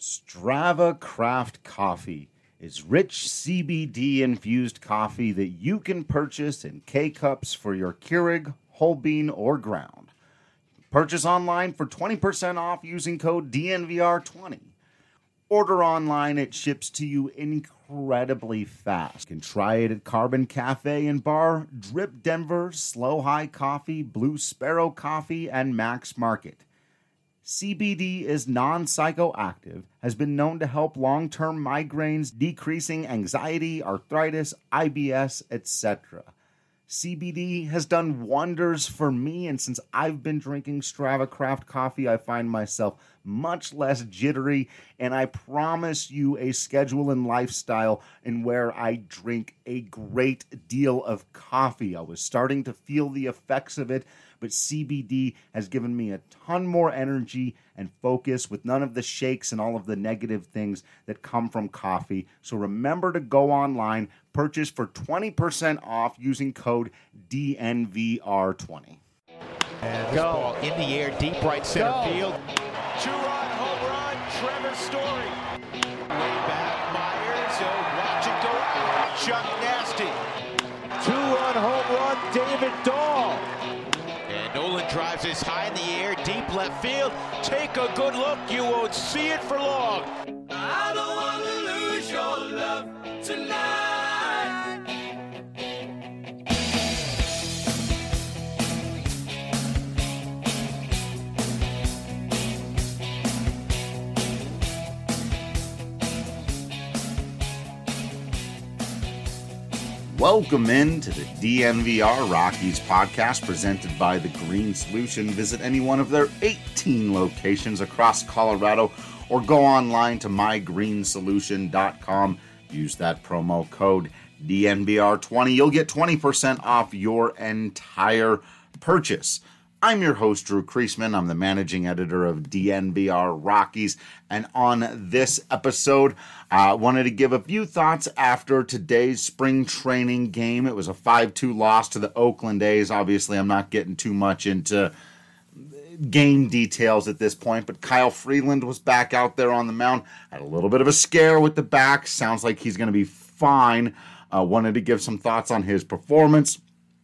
Strava Craft Coffee is rich CBD-infused coffee that you can purchase in K-Cups for your Keurig, whole bean, or ground. Purchase online for 20% off using code DNVR20. Order online, it ships to you incredibly fast. You can try it at Carbon Cafe and Bar, Drip Denver, Slow High Coffee, Blue Sparrow Coffee, and Max Market. CBD is non-psychoactive, has been known to help long-term migraines, decreasing anxiety, arthritis, IBS, etc. CBD has done wonders for me, and since I've been drinking Strava Craft coffee, I find myself much less jittery, and I promise you a schedule and lifestyle in where I drink a great deal of coffee. I was starting to feel the effects of it, but CBD has given me a ton more energy and focus with none of the shakes and all of the negative things that come from coffee. So remember to go online, purchase for 20% off using code DNVR20. And this ball in the air, deep right center field. Two-run home run, Trevor Story. Way back, Myers, watch it go out. Chuck Nasty. Two-run home run, David Dahl. And Nolan drives this high in the air, deep left field. Take a good look, you won't see it for long. I don't want to lose your love tonight. Welcome in to the DNVR Rockies podcast presented by The Green Solution. Visit any one of their 18 locations across Colorado or go online to mygreensolution.com. Use that promo code DNVR20. You'll get 20% off your entire purchase. I'm your host, Drew Kreisman. I'm the managing editor of DNVR Rockies. And on this episode, I wanted to give a few thoughts after today's spring training game. It was a 5-2 loss to the Oakland A's. Obviously, I'm not getting too much into game details at this point, but Kyle Freeland was back out there on the mound. Had a little bit of a scare with the back. Sounds like he's going to be fine. Wanted to give some thoughts on his performance.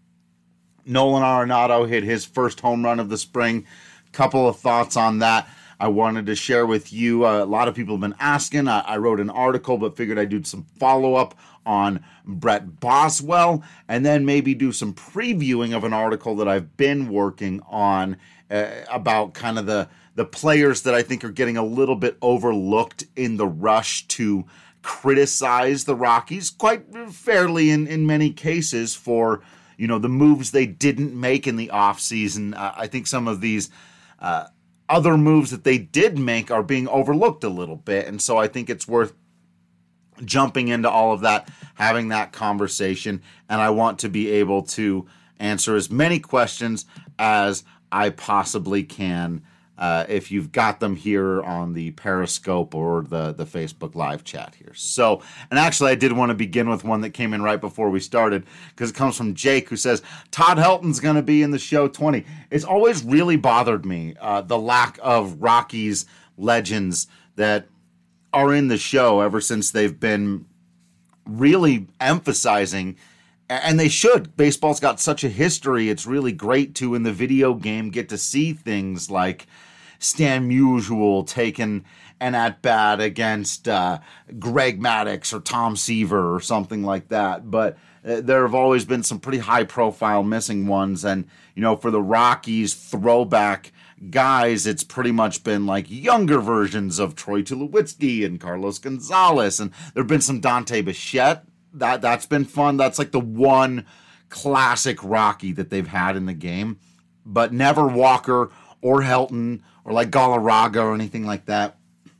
Nolan Arenado hit his first home run of the spring. Couple of thoughts on that I wanted to share with you. A lot of people have been asking. I wrote an article, but figured I'd do some follow-up on Brett Boswell, and then maybe do some previewing of an article that I've been working on about kind of the players that I think are getting a little bit overlooked in the rush to criticize the Rockies, quite fairly in many cases, for the moves they didn't make in the offseason. I think some of these other moves that they did make are being overlooked a little bit. And so I think it's worth jumping into all of that, having that conversation. And I want to be able to answer as many questions as I possibly can if you've got them here on the Periscope or the Facebook live chat here. So, and actually I did want to begin with one that came in right before we started, because it comes from Jake, who says, Todd Helton's going to be in the show 20. It's always really bothered me, the lack of Rockies legends that are in the show ever since they've been really emphasizing, and they should. Baseball's got such a history. It's really great to, in the video game, get to see things like Stan Musial taking an at-bat against Greg Maddux or Tom Seaver or something like that. But there have always been some pretty high-profile missing ones. And, for the Rockies throwback guys, it's pretty much been like younger versions of Troy Tulowitzki and Carlos Gonzalez. And there have been some Dante Bichette. That's been fun. That's like the one classic Rocky that they've had in the game. But never Walker or Helton or like Galarraga or anything like that.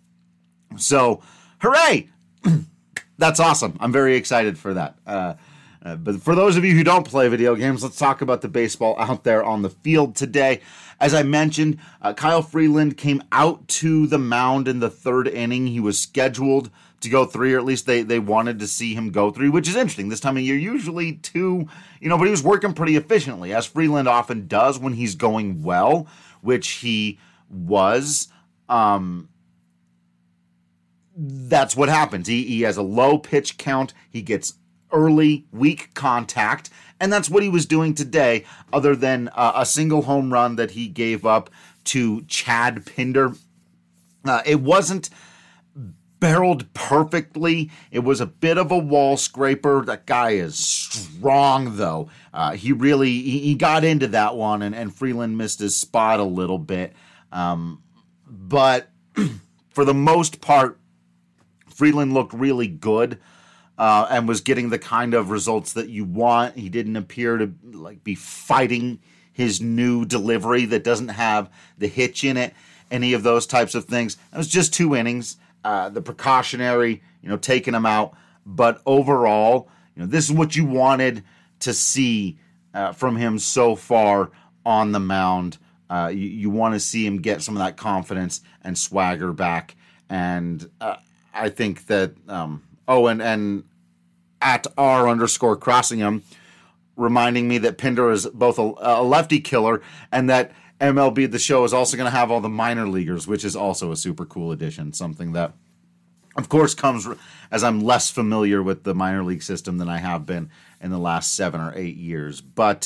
So, hooray! That's awesome. I'm very excited for that. But for those of you who don't play video games, let's talk about the baseball out there on the field today. As I mentioned, Kyle Freeland came out to the mound in the third inning. He was scheduled to go 3, or at least they wanted to see him go 3, which is interesting. This time of year, usually 2, but he was working pretty efficiently, as Freeland often does when he's going well, which he was. that's what happens. He has a low pitch count. He gets early, weak contact, and that's what he was doing today, other than a single home run that he gave up to Chad Pinder. It wasn't barreled perfectly. It was a bit of a wall scraper. That guy is strong, though. He got into that one, and Freeland missed his spot a little bit. But for the most part, Freeland looked really good and was getting the kind of results that you want. He didn't appear to be fighting his new delivery that doesn't have the hitch in it, any of those types of things. It was just 2 innings. The precautionary, taking him out. But overall, this is what you wanted to see from him so far on the mound. You want to see him get some of that confidence and swagger back. And I think that, and at R_Crossingham, reminding me that Pinder is both a lefty killer and that MLB The Show is also going to have all the minor leaguers, which is also a super cool addition. Something that, of course, comes as I'm less familiar with the minor league system than I have been in the last 7 or 8 years. But,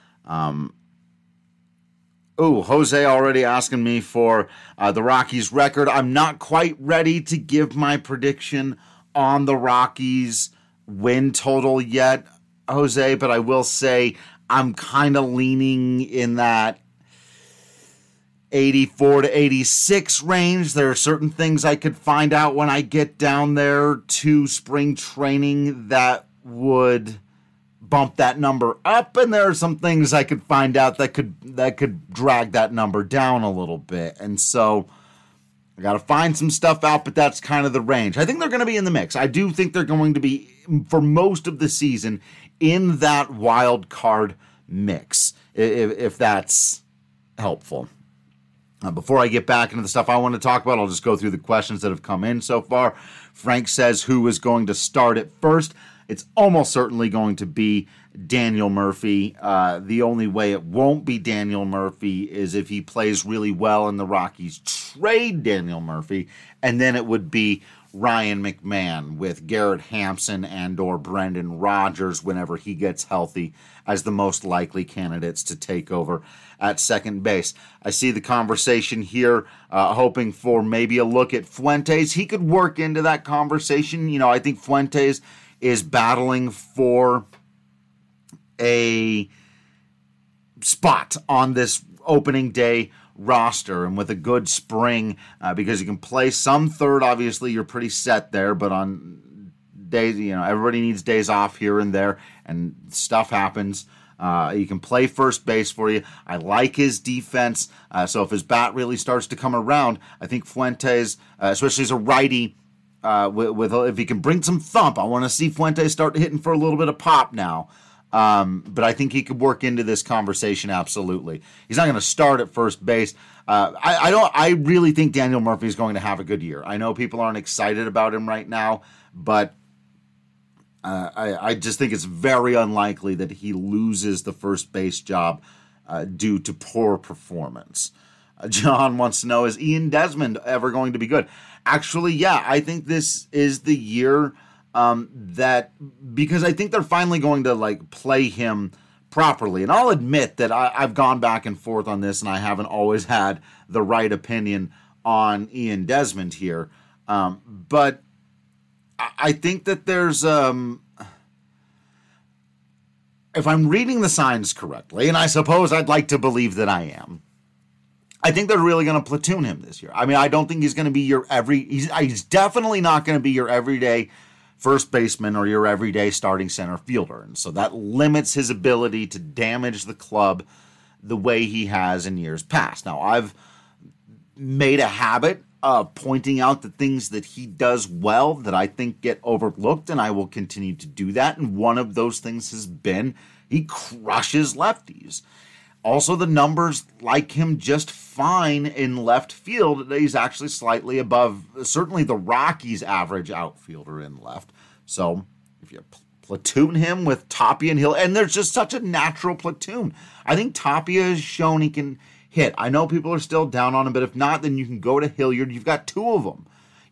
Jose already asking me for the Rockies record. I'm not quite ready to give my prediction on the Rockies win total yet, Jose, but I will say I'm kind of leaning in that 84 to 86 range. There are certain things I could find out when I get down there to spring training that would bump that number up, and there are some things I could find out that could drag that number down a little bit. And so I got to find some stuff out, but that's kind of the range. I think they're going to be in the mix. I do think they're going to be, for most of the season, in that wild card mix, if that's helpful. Before I get back into the stuff I want to talk about, I'll just go through the questions that have come in so far. Frank says, who is going to start at first? It's almost certainly going to be Daniel Murphy. The only way it won't be Daniel Murphy is if he plays really well and the Rockies trade Daniel Murphy, and then it would be Ryan McMahon with Garrett Hampson and or Brendan Rodgers whenever he gets healthy as the most likely candidates to take over at second base. I see the conversation here, hoping for maybe a look at Fuentes. He could work into that conversation. I think Fuentes is battling for a spot on this opening day roster, and with a good spring, because you can play some third, obviously you're pretty set there, but on days, everybody needs days off here and there, and stuff happens. You can play first base for you. I like his defense, so if his bat really starts to come around, I think Fuentes, especially as a righty, if he can bring some thump, I want to see Fuentes start hitting for a little bit of pop now. But I think he could work into this conversation, absolutely. He's not going to start at first base. I really think Daniel Murphy is going to have a good year. I know people aren't excited about him right now, but I just think it's very unlikely that he loses the first base job due to poor performance. John wants to know, is Ian Desmond ever going to be good? Actually, yeah, I think this is the year because I think they're finally going to play him properly. And I'll admit that I've gone back and forth on this, and I haven't always had the right opinion on Ian Desmond here. But I think that there's, if I'm reading the signs correctly, and I suppose I'd like to believe that I am, I think they're really going to platoon him this year. I mean, I don't think he's going to be he's definitely not going to be your everyday first baseman or your everyday starting center fielder. And so that limits his ability to damage the club the way he has in years past. Now, I've made a habit of pointing out the things that he does well that I think get overlooked, and I will continue to do that. And one of those things has been he crushes lefties. Also, the numbers like him just fine in left field. He's actually slightly above, certainly the Rockies' average outfielder in left. So if you platoon him with Tapia and Hill, and there's just such a natural platoon. I think Tapia has shown he can hit. I know people are still down on him, but if not, then you can go to Hilliard. You've got two of them.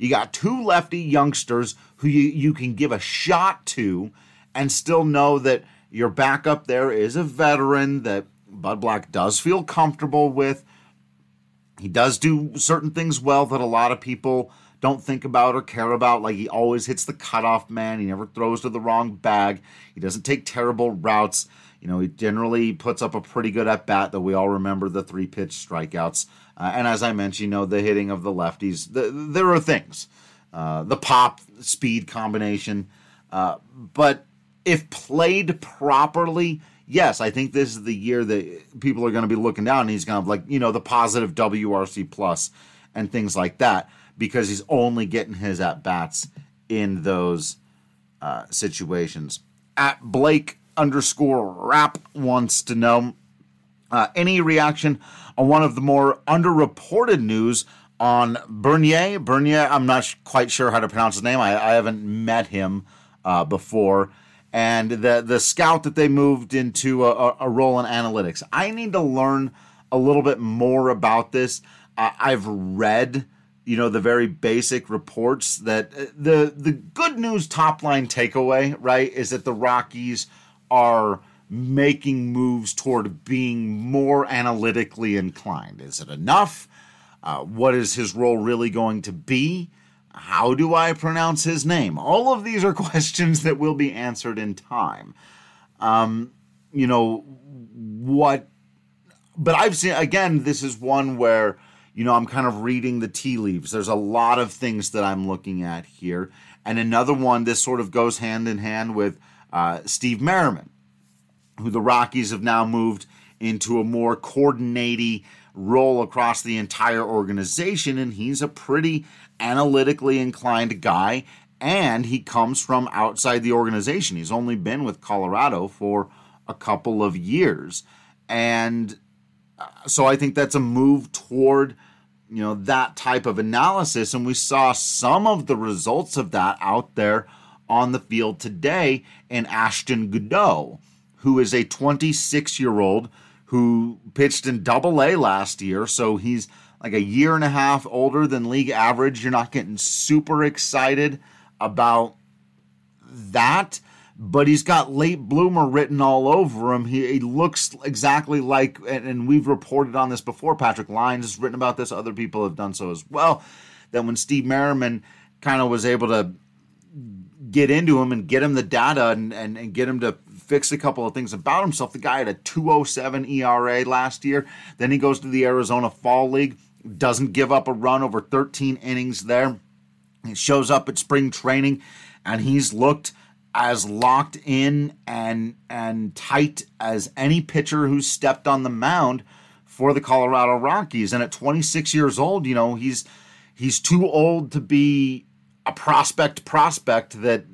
You got two lefty youngsters who you can give a shot to and still know that your backup there is a veteran that Bud Black does feel comfortable with. He does do certain things well that a lot of people don't think about or care about, like he always hits the cutoff man. He never throws to the wrong bag. He doesn't take terrible routes. He generally puts up a pretty good at-bat, though we all remember the 3-pitch strikeouts. And as I mentioned, the hitting of the lefties. There are things. The pop, speed combination. But if played properly, yes, I think this is the year that people are going to be looking down, and he's going to have the positive WRC plus and things like that, because he's only getting his at-bats in those situations. At Blake_Rap wants to know any reaction on one of the more underreported news on Bernier. Bernier, I'm not quite sure how to pronounce his name. I haven't met him before. And the scout that they moved into a role in analytics. I need to learn a little bit more about this. I've read, the very basic reports that the good news top line takeaway, right, is that the Rockies are making moves toward being more analytically inclined. Is it enough? What is his role really going to be? How do I pronounce his name? All of these are questions that will be answered in time. What? But I've seen, again, this is one where, I'm kind of reading the tea leaves. There's a lot of things that I'm looking at here. And another one, this sort of goes hand in hand with Steve Merriman, who the Rockies have now moved into a more coordinating role across the entire organization, and he's a pretty analytically inclined guy, and he comes from outside the organization. He's only been with Colorado for a couple of years, and so I think that's a move toward that type of analysis, and we saw some of the results of that out there on the field today in Ashton Goudeau, who is a 26-year-old who pitched in Double-A last year, so he's like a year and a half older than league average. You're not getting super excited about that, but he's got late bloomer written all over him. He looks exactly like, and we've reported on this before, Patrick Lyons has written about this, other people have done so as well, that when Steve Merriman kind of was able to get into him and get him the data and get him to fix a couple of things about himself. The guy had a 2.07 ERA last year. Then he goes to the Arizona Fall League, doesn't give up a run over 13 innings there. He shows up at spring training, and he's looked as locked in and tight as any pitcher who's stepped on the mound for the Colorado Rockies. And at 26 years old, he's too old to be a prospect that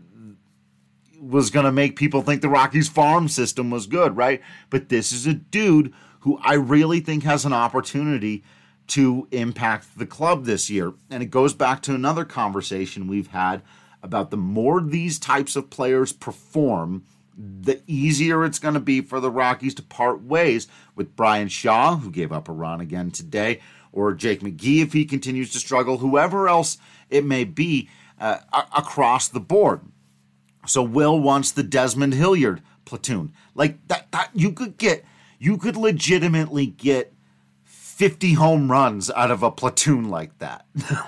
was going to make people think the Rockies farm system was good, right? But this is a dude who I really think has an opportunity to impact the club this year. And it goes back to another conversation we've had about the more these types of players perform, the easier it's going to be for the Rockies to part ways with Brian Shaw, who gave up a run again today, or Jake McGee if he continues to struggle, whoever else it may be across the board. So Will wants the Desmond Hilliard platoon. Like that you could legitimately get 50 home runs out of a platoon like that.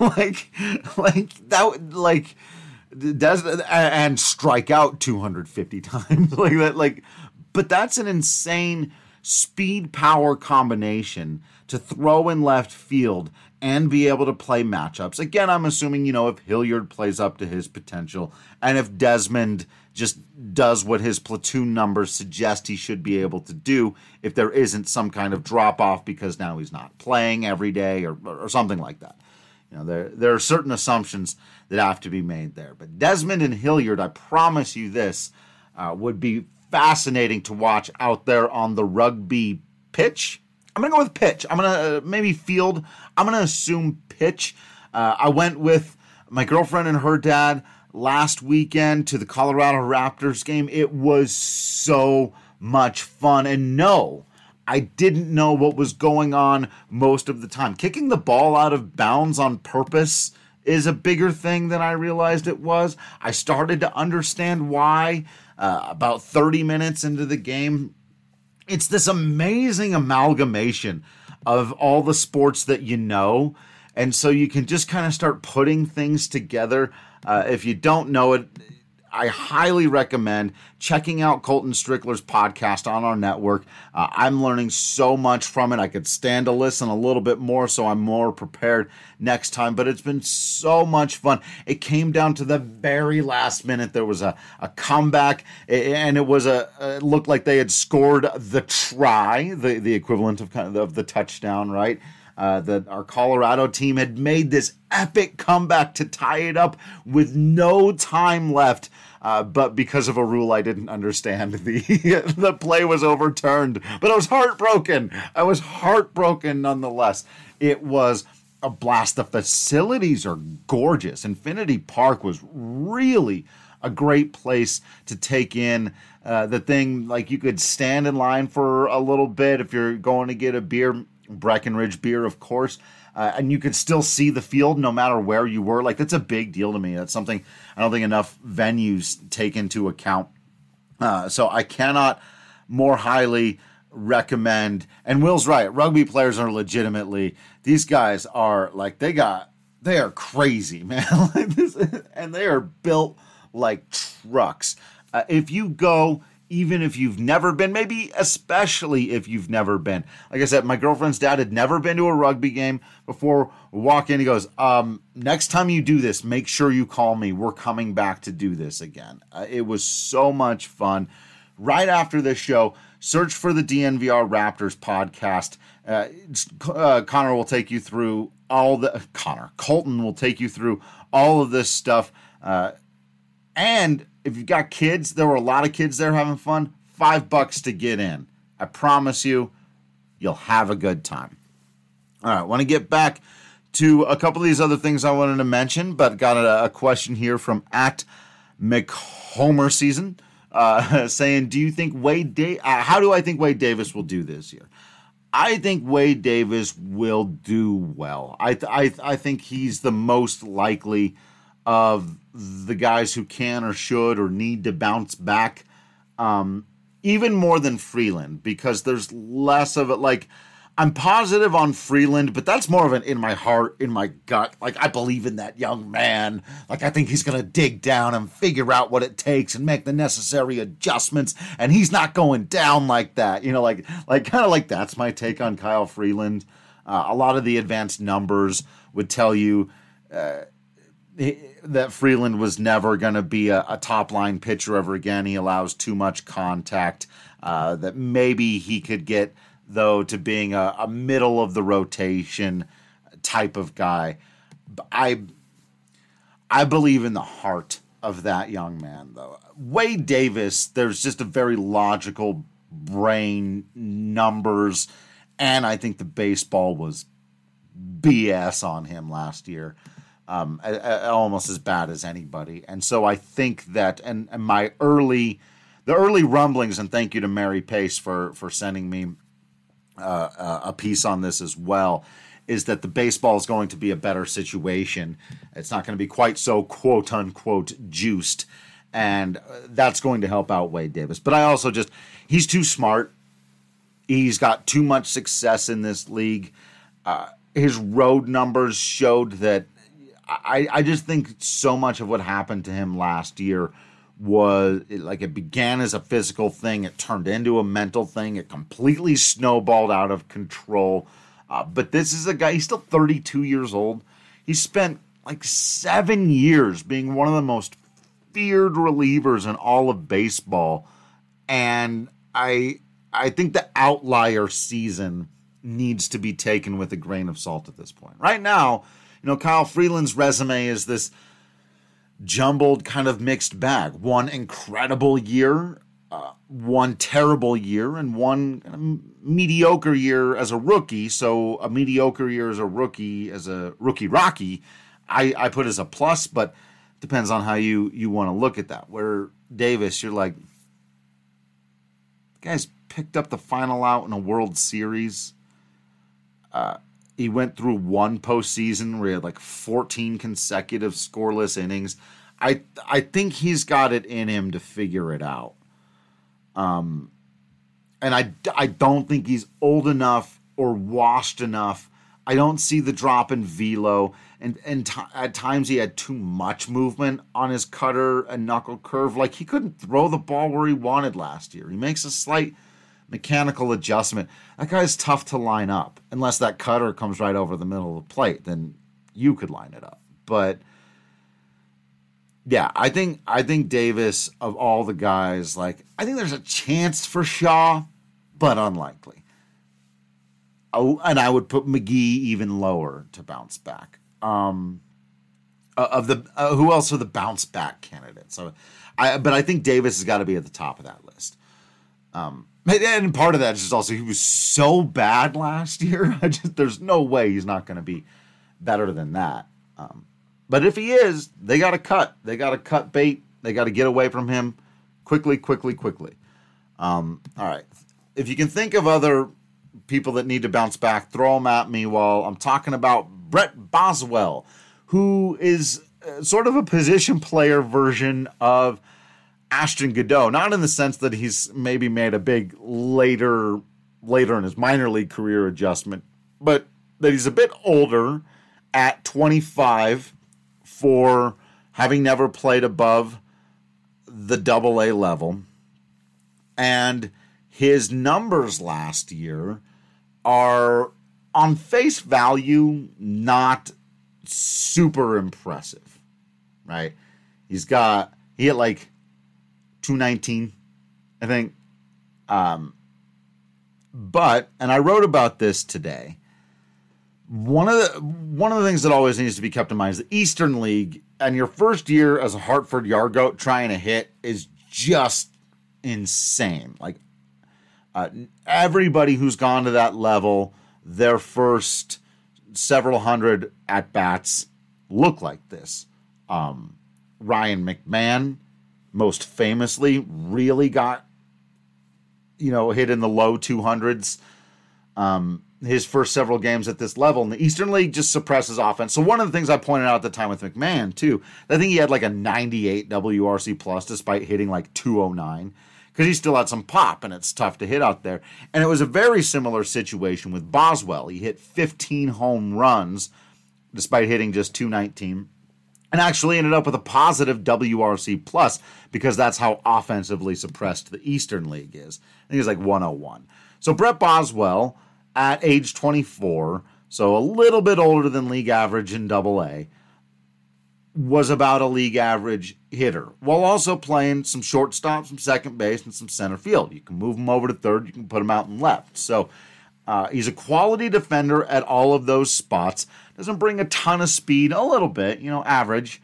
And strike out 250 times like that. But that's an insane speed power combination to throw in left field and be able to play matchups. Again, I'm assuming, if Hilliard plays up to his potential and if Desmond just does what his platoon numbers suggest he should be able to do, if there isn't some kind of drop-off because now he's not playing every day or something like that. There are certain assumptions that have to be made there. But Desmond and Hilliard, I promise you this, would be fascinating to watch out there on the rugby pitch. I'm going to go with pitch. I'm going to maybe field. I'm going to assume pitch. I went with my girlfriend and her dad last weekend to the Colorado Raptors game. It was so much fun. And no, I didn't know what was going on most of the time. Kicking the ball out of bounds on purpose is a bigger thing than I realized it was. I started to understand why about 30 minutes into the game. It's this amazing amalgamation of all the sports that you know, and so you can just kind of start putting things together. If you don't know it, I highly recommend checking out Colton Strickler's podcast on our network. I'm learning so much from it. I could stand to listen a little bit more, so I'm more prepared next time. But it's been so much fun. It came down to the very last minute. There was a comeback, and it was it looked like they had scored the try, the equivalent of kind of the touchdown, right? That our Colorado team had made this epic comeback to tie it up with no time left. But because of a rule I didn't understand, the play was overturned. But I was heartbroken. I was heartbroken nonetheless. It was a blast. The facilities are gorgeous. Infinity Park was really a great place to take in the thing. Like, you could stand in line for a little bit if you're going to get a beer. Breckenridge beer, of course, and you could still see the field no matter where you were. Like, that's a big deal to me. That's something I don't think enough venues take into account. So I cannot more highly recommend. And Will's right. Rugby players are legitimately, these guys are like, they are crazy, man. And they are built like trucks. If you go, even if you've never been, maybe especially if you've never been. Like I said, my girlfriend's dad had never been to a rugby game before. We walk in, he goes, next time you do this, make sure you call me. We're coming back to do this again. It was so much fun. Right after this show, search for the DNVR Raptors podcast. Connor will take you through Colton will take you through all of this stuff. And if you've got kids, there were a lot of kids there having fun. $5 to get in. I promise you'll have a good time. All right, I want to get back to a couple of these other things I wanted to mention, but got a question here from @McHomerSeason saying, "Do you think how do I think Wade Davis will do this year?" I think Wade Davis will do well. I think he's the most likely of the guys who can or should or need to bounce back, even more than Freeland, because there's less of it. Like, I'm positive on Freeland, but that's more of an in my heart, in my gut. Like, I believe in that young man. Like, I think he's going to dig down and figure out what it takes and make the necessary adjustments, and he's not going down like that. You know, like kind of like that's my take on Kyle Freeland. A lot of the advanced numbers would tell you that Freeland was never going to be a top-line pitcher ever again. He allows too much contact. That maybe he could get, though, to being a middle-of-the-rotation type of guy. I believe in the heart of that young man, though. Wade Davis, there's just a very logical brain, numbers, and I think the baseball was BS on him last year. Almost as bad as anybody. And so I think that, and the early rumblings, and thank you to Mary Pace for sending me a piece on this as well, is that the baseball is going to be a better situation. It's not going to be quite so quote unquote juiced, and that's going to help out Wade Davis. But I also he's too smart. He's got too much success in this league. His road numbers showed that. I just think so much of what happened to him last year was like, it began as a physical thing. It turned into a mental thing. It completely snowballed out of control. But this is a guy, he's still 32 years old. He spent like 7 years being one of the most feared relievers in all of baseball. And I think the outlier season needs to be taken with a grain of salt at this point. Right now, Kyle Freeland's resume is this jumbled kind of mixed bag. One incredible year, one terrible year, and one kind of mediocre year as a rookie. So a mediocre year as a rookie Rocky, I put as a plus, but depends on how you want to look at that. Where Davis, you're like, the guy's picked up the final out in a World Series. He went through one postseason where he had like 14 consecutive scoreless innings. I think he's got it in him to figure it out. And I don't think he's old enough or washed enough. I don't see the drop in velo. And at times he had too much movement on his cutter and knuckle curve. Like, he couldn't throw the ball where he wanted last year. He makes a slight mechanical adjustment. That guy's tough to line up. Unless that cutter comes right over the middle of the plate, then you could line it up. But yeah, I think Davis, of all the guys, like, I think there's a chance for Shaw, but unlikely. Oh, and I would put McGee even lower to bounce back. Who else are the bounce back candidates? But I think Davis has got to be at the top of that list. And part of that is just also he was so bad last year. There's no way he's not going to be better than that. But if he is, they got to cut. They got to cut bait. They got to get away from him quickly. All right. If you can think of other people that need to bounce back, throw them at me while I'm talking about Brett Boswell, who is sort of a position player version of Ashton Godot. Not in the sense that he's maybe made a big later in his minor league career adjustment, but that he's a bit older at 25 for having never played above the AA level. And his numbers last year are, on face value, not super impressive, right? He hit like 219, I think. But, and I wrote about this today, one of the things that always needs to be kept in mind is the Eastern League, and your first year as a Hartford Yard Goat trying to hit is just insane. Like, everybody who's gone to that level, their first several hundred at-bats look like this. Ryan McMahon, most famously, really got, hit in the low 200s. His first several games at this level, and the Eastern League just suppresses offense. So one of the things I pointed out at the time with McMahon, too, I think he had like a 98 WRC plus despite hitting like 209, because he still had some pop, and it's tough to hit out there. And it was a very similar situation with Boswell. He hit 15 home runs despite hitting just 219, and actually ended up with a positive WRC plus, because that's how offensively suppressed the Eastern League is. I think it's like 101. So Brett Boswell, at age 24, so a little bit older than league average in AA, was about a league average hitter, while also playing some shortstop, some second base, and some center field. You can move him over to third, you can put him out in left. So he's a quality defender at all of those spots. Doesn't bring a ton of speed, a little bit, average,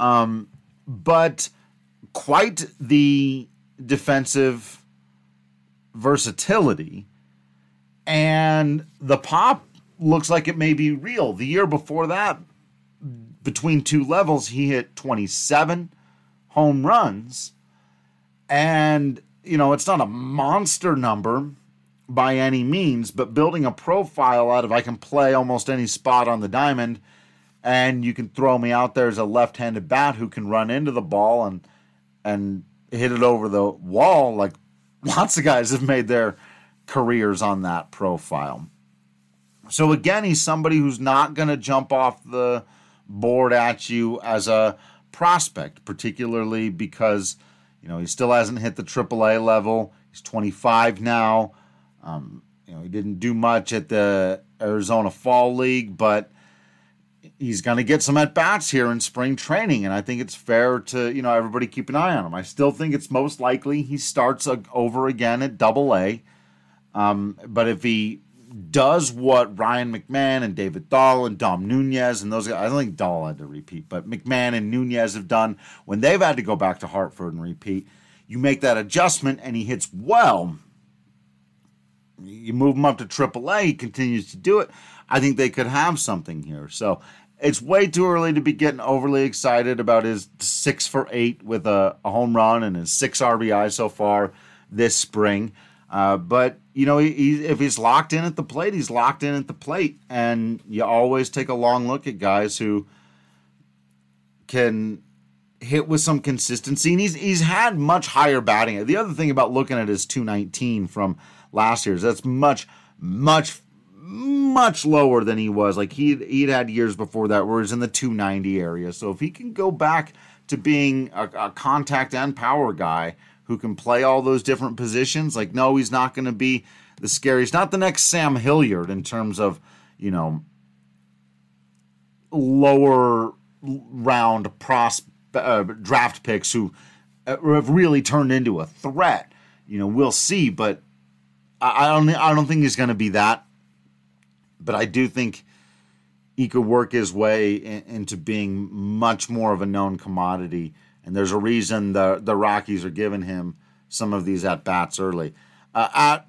but quite the defensive versatility. And the pop looks like it may be real. The year before that, between two levels, he hit 27 home runs. And, it's not a monster number by any means, but building a profile out of I can play almost any spot on the diamond, and you can throw me out there as a left-handed bat who can run into the ball and hit it over the wall. Like, lots of guys have made their careers on that profile. So again, he's somebody who's not going to jump off the board at you as a prospect, particularly because, he still hasn't hit the AAA level. He's 25 now. He didn't do much at the Arizona Fall League, but he's going to get some at-bats here in spring training, and I think it's fair to, everybody keep an eye on him. I still think it's most likely he starts over again at AA. But if he does what Ryan McMahon and David Dahl and Dom Nunez and those guys, I don't think Dahl had to repeat, but McMahon and Nunez have done when they've had to go back to Hartford and repeat, you make that adjustment and he hits well. You move him up to AAA, he continues to do it. I think they could have something here. So it's way too early to be getting overly excited about his 6 for 8 with a home run and his 6 RBI so far this spring. But, if he's locked in at the plate, he's locked in at the plate. And you always take a long look at guys who can hit with some consistency. And he's had much higher batting. The other thing about looking at his 219 from last year is that's much, much, much lower than he was. Like he'd had years before that where he's in the 290 area. So if he can go back to being a contact and power guy who can play all those different positions, like, no, he's not going to be the scary. He's not the next Sam Hilliard in terms of, lower round draft picks who have really turned into a threat. We'll see, but I don't think he's going to be that. But I do think he could work his way into being much more of a known commodity. And there's a reason the Rockies are giving him some of these at-bats early. I'm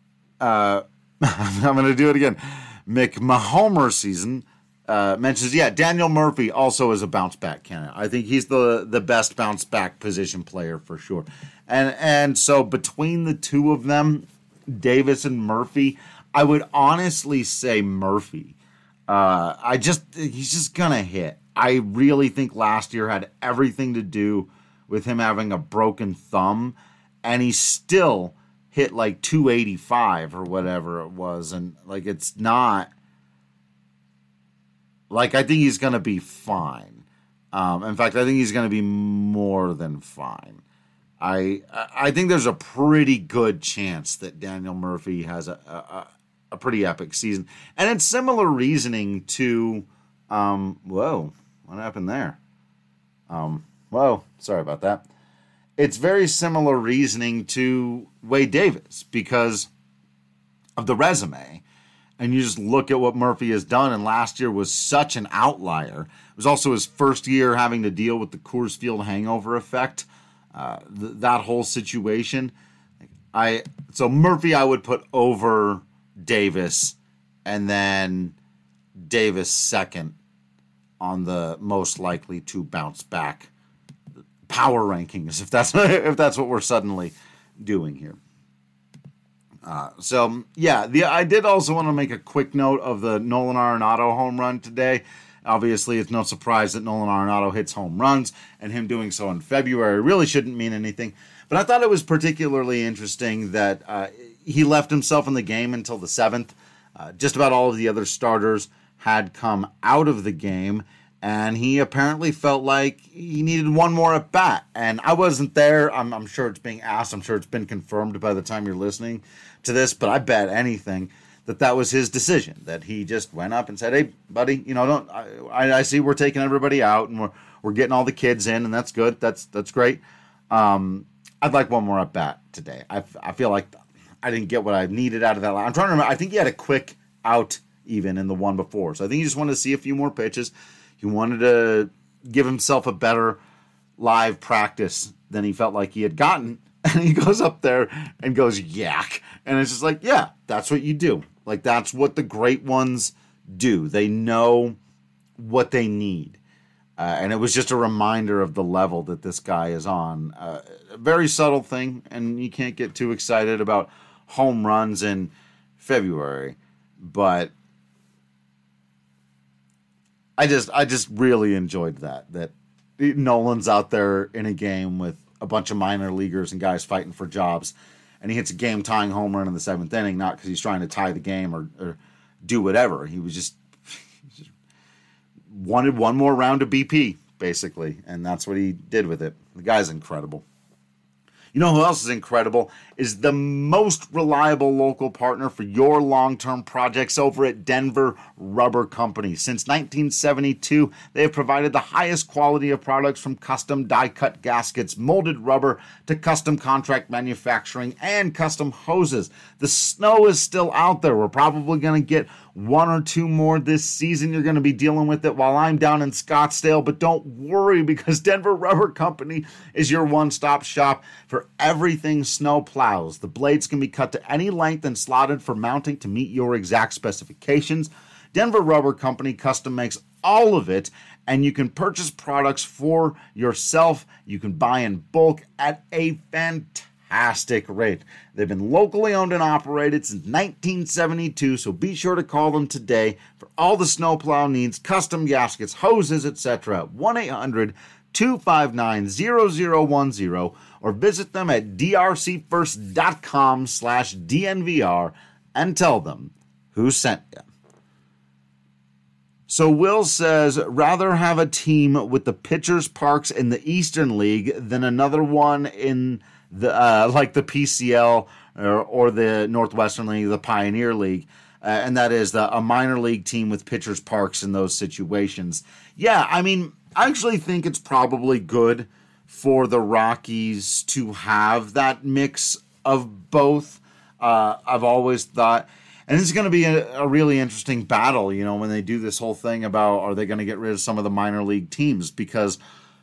going to do it again. McMahomer season mentions, Daniel Murphy also is a bounce-back candidate. I think he's the best bounce-back position player for sure. And so between the two of them, Davis and Murphy, I would honestly say Murphy. He's just going to hit. I really think last year had everything to do with him having a broken thumb, and he still hit like 285 or whatever it was. And like, it's not like, I think he's going to be fine. In fact, I think he's going to be more than fine. I think there's a pretty good chance that Daniel Murphy has a pretty epic season. And it's similar reasoning to, whoa, what happened there? Whoa, sorry about that. It's very similar reasoning to Wade Davis because of the resume. And you just look at what Murphy has done, and last year was such an outlier. It was also his first year having to deal with the Coors Field hangover effect, that whole situation. So Murphy I would put over Davis, and then Davis second on the most likely to bounce back power rankings, if that's what we're suddenly doing here. I did also want to make a quick note of the Nolan Arenado home run today. Obviously, it's no surprise that Nolan Arenado hits home runs, and him doing so in February really shouldn't mean anything. But I thought it was particularly interesting that he left himself in the game until the 7th. Just about all of the other starters had come out of the game, and he apparently felt like he needed one more at bat. And I wasn't there. I'm sure it's being asked. I'm sure it's been confirmed by the time you're listening to this. But I bet anything that was his decision. That he just went up and said, "Hey, buddy, I see we're taking everybody out and we're getting all the kids in, and that's good. That's great. I'd like one more at bat today. I feel like I didn't get what I needed out of that. I'm trying to remember. I think he had a quick out even in the one before. So I think he just wanted to see a few more pitches. He wanted to give himself a better live practice than he felt like he had gotten. And he goes up there and goes yak. And it's just like, yeah, that's what you do. Like, that's what the great ones do. They know what they need. And it was just a reminder of the level that this guy is on. A very subtle thing, and you can't get too excited about home runs in February. But I just really enjoyed that Nolan's out there in a game with a bunch of minor leaguers and guys fighting for jobs, and he hits a game-tying home run in the 7th inning, not because he's trying to tie the game or do whatever. He just wanted one more round of BP, basically, and that's what he did with it. The guy's incredible. You know who else is incredible? Is the most reliable local partner for your long-term projects over at Denver Rubber Company. Since 1972, they have provided the highest quality of products from custom die-cut gaskets, molded rubber, to custom contract manufacturing and custom hoses. The snow is still out there. We're probably going to get one or two more this season. You're going to be dealing with it while I'm down in Scottsdale, but don't worry, because Denver Rubber Company is your one-stop shop for everything snow plows. The blades can be cut to any length and slotted for mounting to meet your exact specifications. Denver Rubber Company custom makes all of it, and you can purchase products for yourself. You can buy in bulk at a fantastic fantastic rate. They've been locally owned and operated since 1972, so be sure to call them today for all the snowplow needs, custom gaskets, hoses, etc. 1-800-259-0010 or visit them at drcfirst.com/DNVR and tell them who sent you. So Will says, rather have a team with the pitchers' parks in the Eastern League than another one in the like the PCL or the Northwestern League, the Pioneer League, and that is a minor league team with pitchers' parks in those situations. Yeah, I mean, I actually think it's probably good for the Rockies to have that mix of both. I've always thought... And this is going to be a really interesting battle, you know, when they do this whole thing about are they going to get rid of some of the minor league teams, because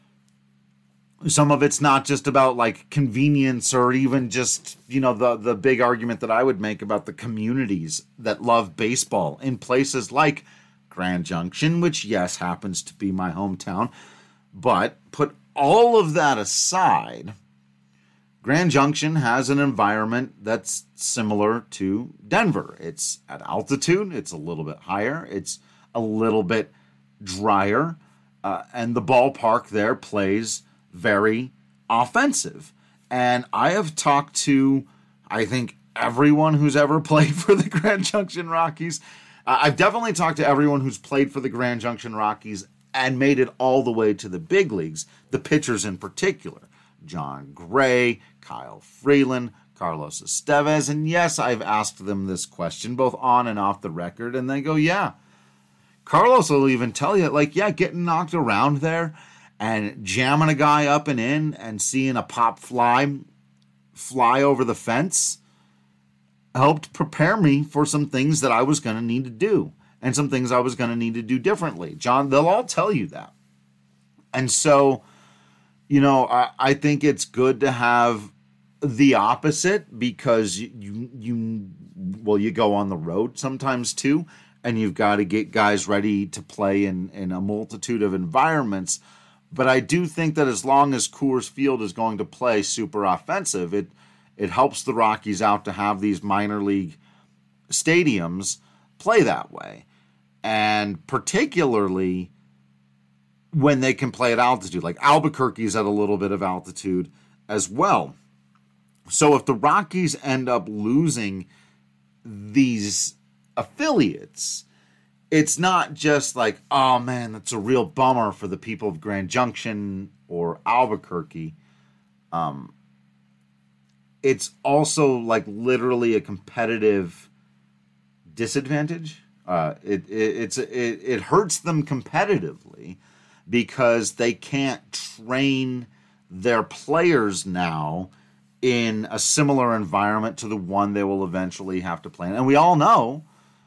some of it's not just about like convenience or even just, you know, the big argument that I would make about the communities that love baseball in places like Grand Junction, which, yes, happens to be my hometown. But put all of that aside, Grand Junction has an environment that's similar to Denver. It's at altitude, it's a little bit higher, it's a little bit drier, and the ballpark there plays very offensive. And I have talked to, I think, everyone who's ever played for the Grand Junction Rockies. I've definitely talked to everyone who's played for the Grand Junction Rockies and made it all the way to the big leagues, the pitchers in particular. John Gray, Kyle Freeland, Carlos Estevez, and yes, I've asked them this question both on and off the record, and they go, yeah. Carlos will even tell you, like, yeah, getting knocked around there and jamming a guy up and in and seeing a pop fly over the fence helped prepare me for some things that I was going to need to do and some things I was going to need to do differently. John, they'll all tell you that. And so, you know, I think it's good to have the opposite, because you go on the road sometimes too, and you've got to get guys ready to play in a multitude of environments. But I do think that as long as Coors Field is going to play super offensive, it helps the Rockies out to have these minor league stadiums play that way. And particularly when they can play at altitude, like Albuquerque's at a little bit of altitude as well. So if the Rockies end up losing these affiliates, it's not just like, oh man, that's a real bummer for the people of Grand Junction or Albuquerque. It's also like literally a competitive disadvantage. It hurts them competitively, because they can't train their players now in a similar environment to the one they will eventually have to play in. And we all know,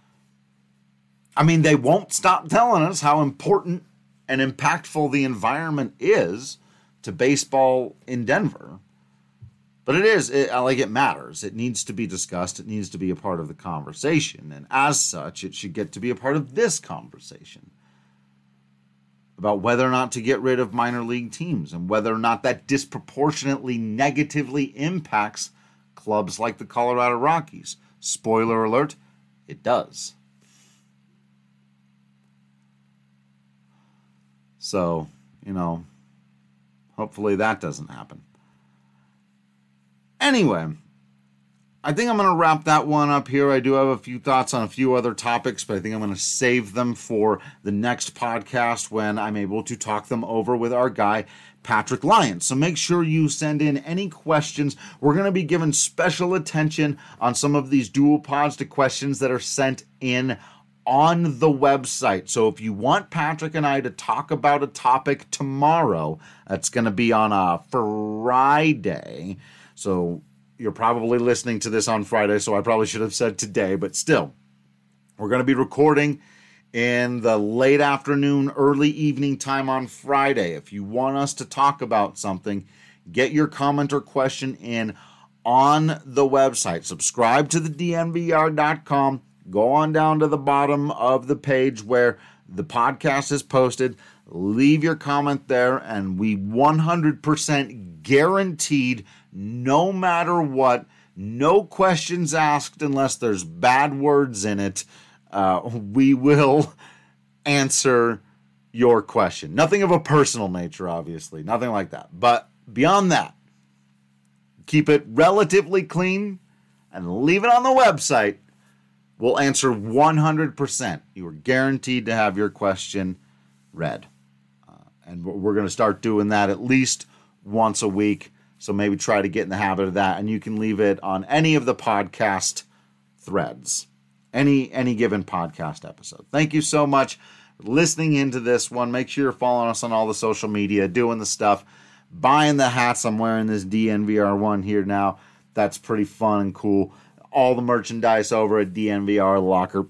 I mean, they won't stop telling us how important and impactful the environment is to baseball in Denver. But it matters. It needs to be discussed. It needs to be a part of the conversation. And as such, it should get to be a part of this conversation about whether or not to get rid of minor league teams and whether or not that disproportionately negatively impacts clubs like the Colorado Rockies. Spoiler alert, it does. So, you know, hopefully that doesn't happen. Anyway, I think I'm going to wrap that one up here. I do have a few thoughts on a few other topics, but I think I'm going to save them for the next podcast when I'm able to talk them over with our guy, Patrick Lyons. So make sure you send in any questions. We're going to be giving special attention on some of these dual pods to questions that are sent in on the website. So if you want Patrick and I to talk about a topic tomorrow, that's going to be on a Friday. So you're probably listening to this on Friday, so I probably should have said today, but still, we're going to be recording in the late afternoon, early evening time on Friday. If you want us to talk about something, get your comment or question in on the website. Subscribe to the DNVR.com. Go on down to the bottom of the page where the podcast is posted. Leave your comment there, and we 100% guaranteed no matter what. No questions asked unless there's bad words in it. We will answer your question. Nothing of a personal nature, obviously. Nothing like that. But beyond that, keep it relatively clean and leave it on the website. We'll answer 100%. You are guaranteed to have your question read. And we're going to start doing that at least once a week. So maybe try to get in the habit of that. And you can leave it on any of the podcast threads. Any given podcast episode. Thank you so much for listening into this one. Make sure you're following us on all the social media, doing the stuff, buying the hats. I'm wearing this DNVR one here now. That's pretty fun and cool. All the merchandise over at DNVR Locker.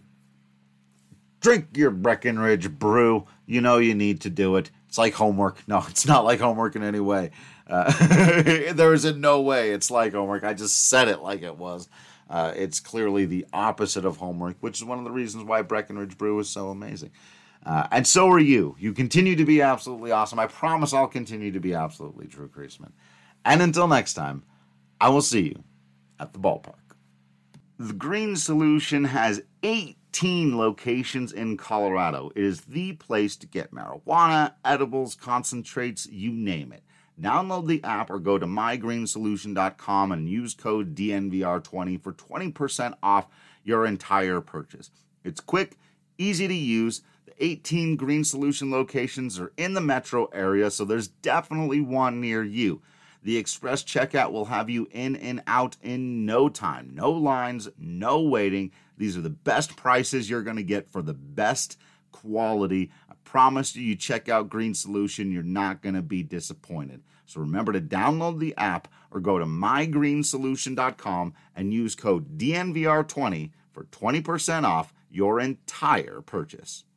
Drink your Breckenridge brew. You know you need to do it. It's like homework. No, it's not like homework in any way. There is in no way it's like homework. I just said it like it was. It's clearly the opposite of homework, which is one of the reasons why Breckenridge Brew is so amazing. And so are you. You continue to be absolutely awesome. I promise I'll continue to be absolutely Drew Creasman. And until next time, I will see you at the ballpark. The Green Solution has 18 locations in Colorado. It is the place to get marijuana, edibles, concentrates, you name it. Download the app or go to mygreensolution.com and use code DNVR20 for 20% off your entire purchase. It's quick, easy to use. The 18 Green Solution locations are in the metro area, so there's definitely one near you. The express checkout will have you in and out in no time. No lines, no waiting. These are the best prices you're going to get for the best quality. I promise you check out Green Solution. You're not going to be disappointed. So remember to download the app or go to mygreensolution.com and use code DNVR20 for 20% off your entire purchase.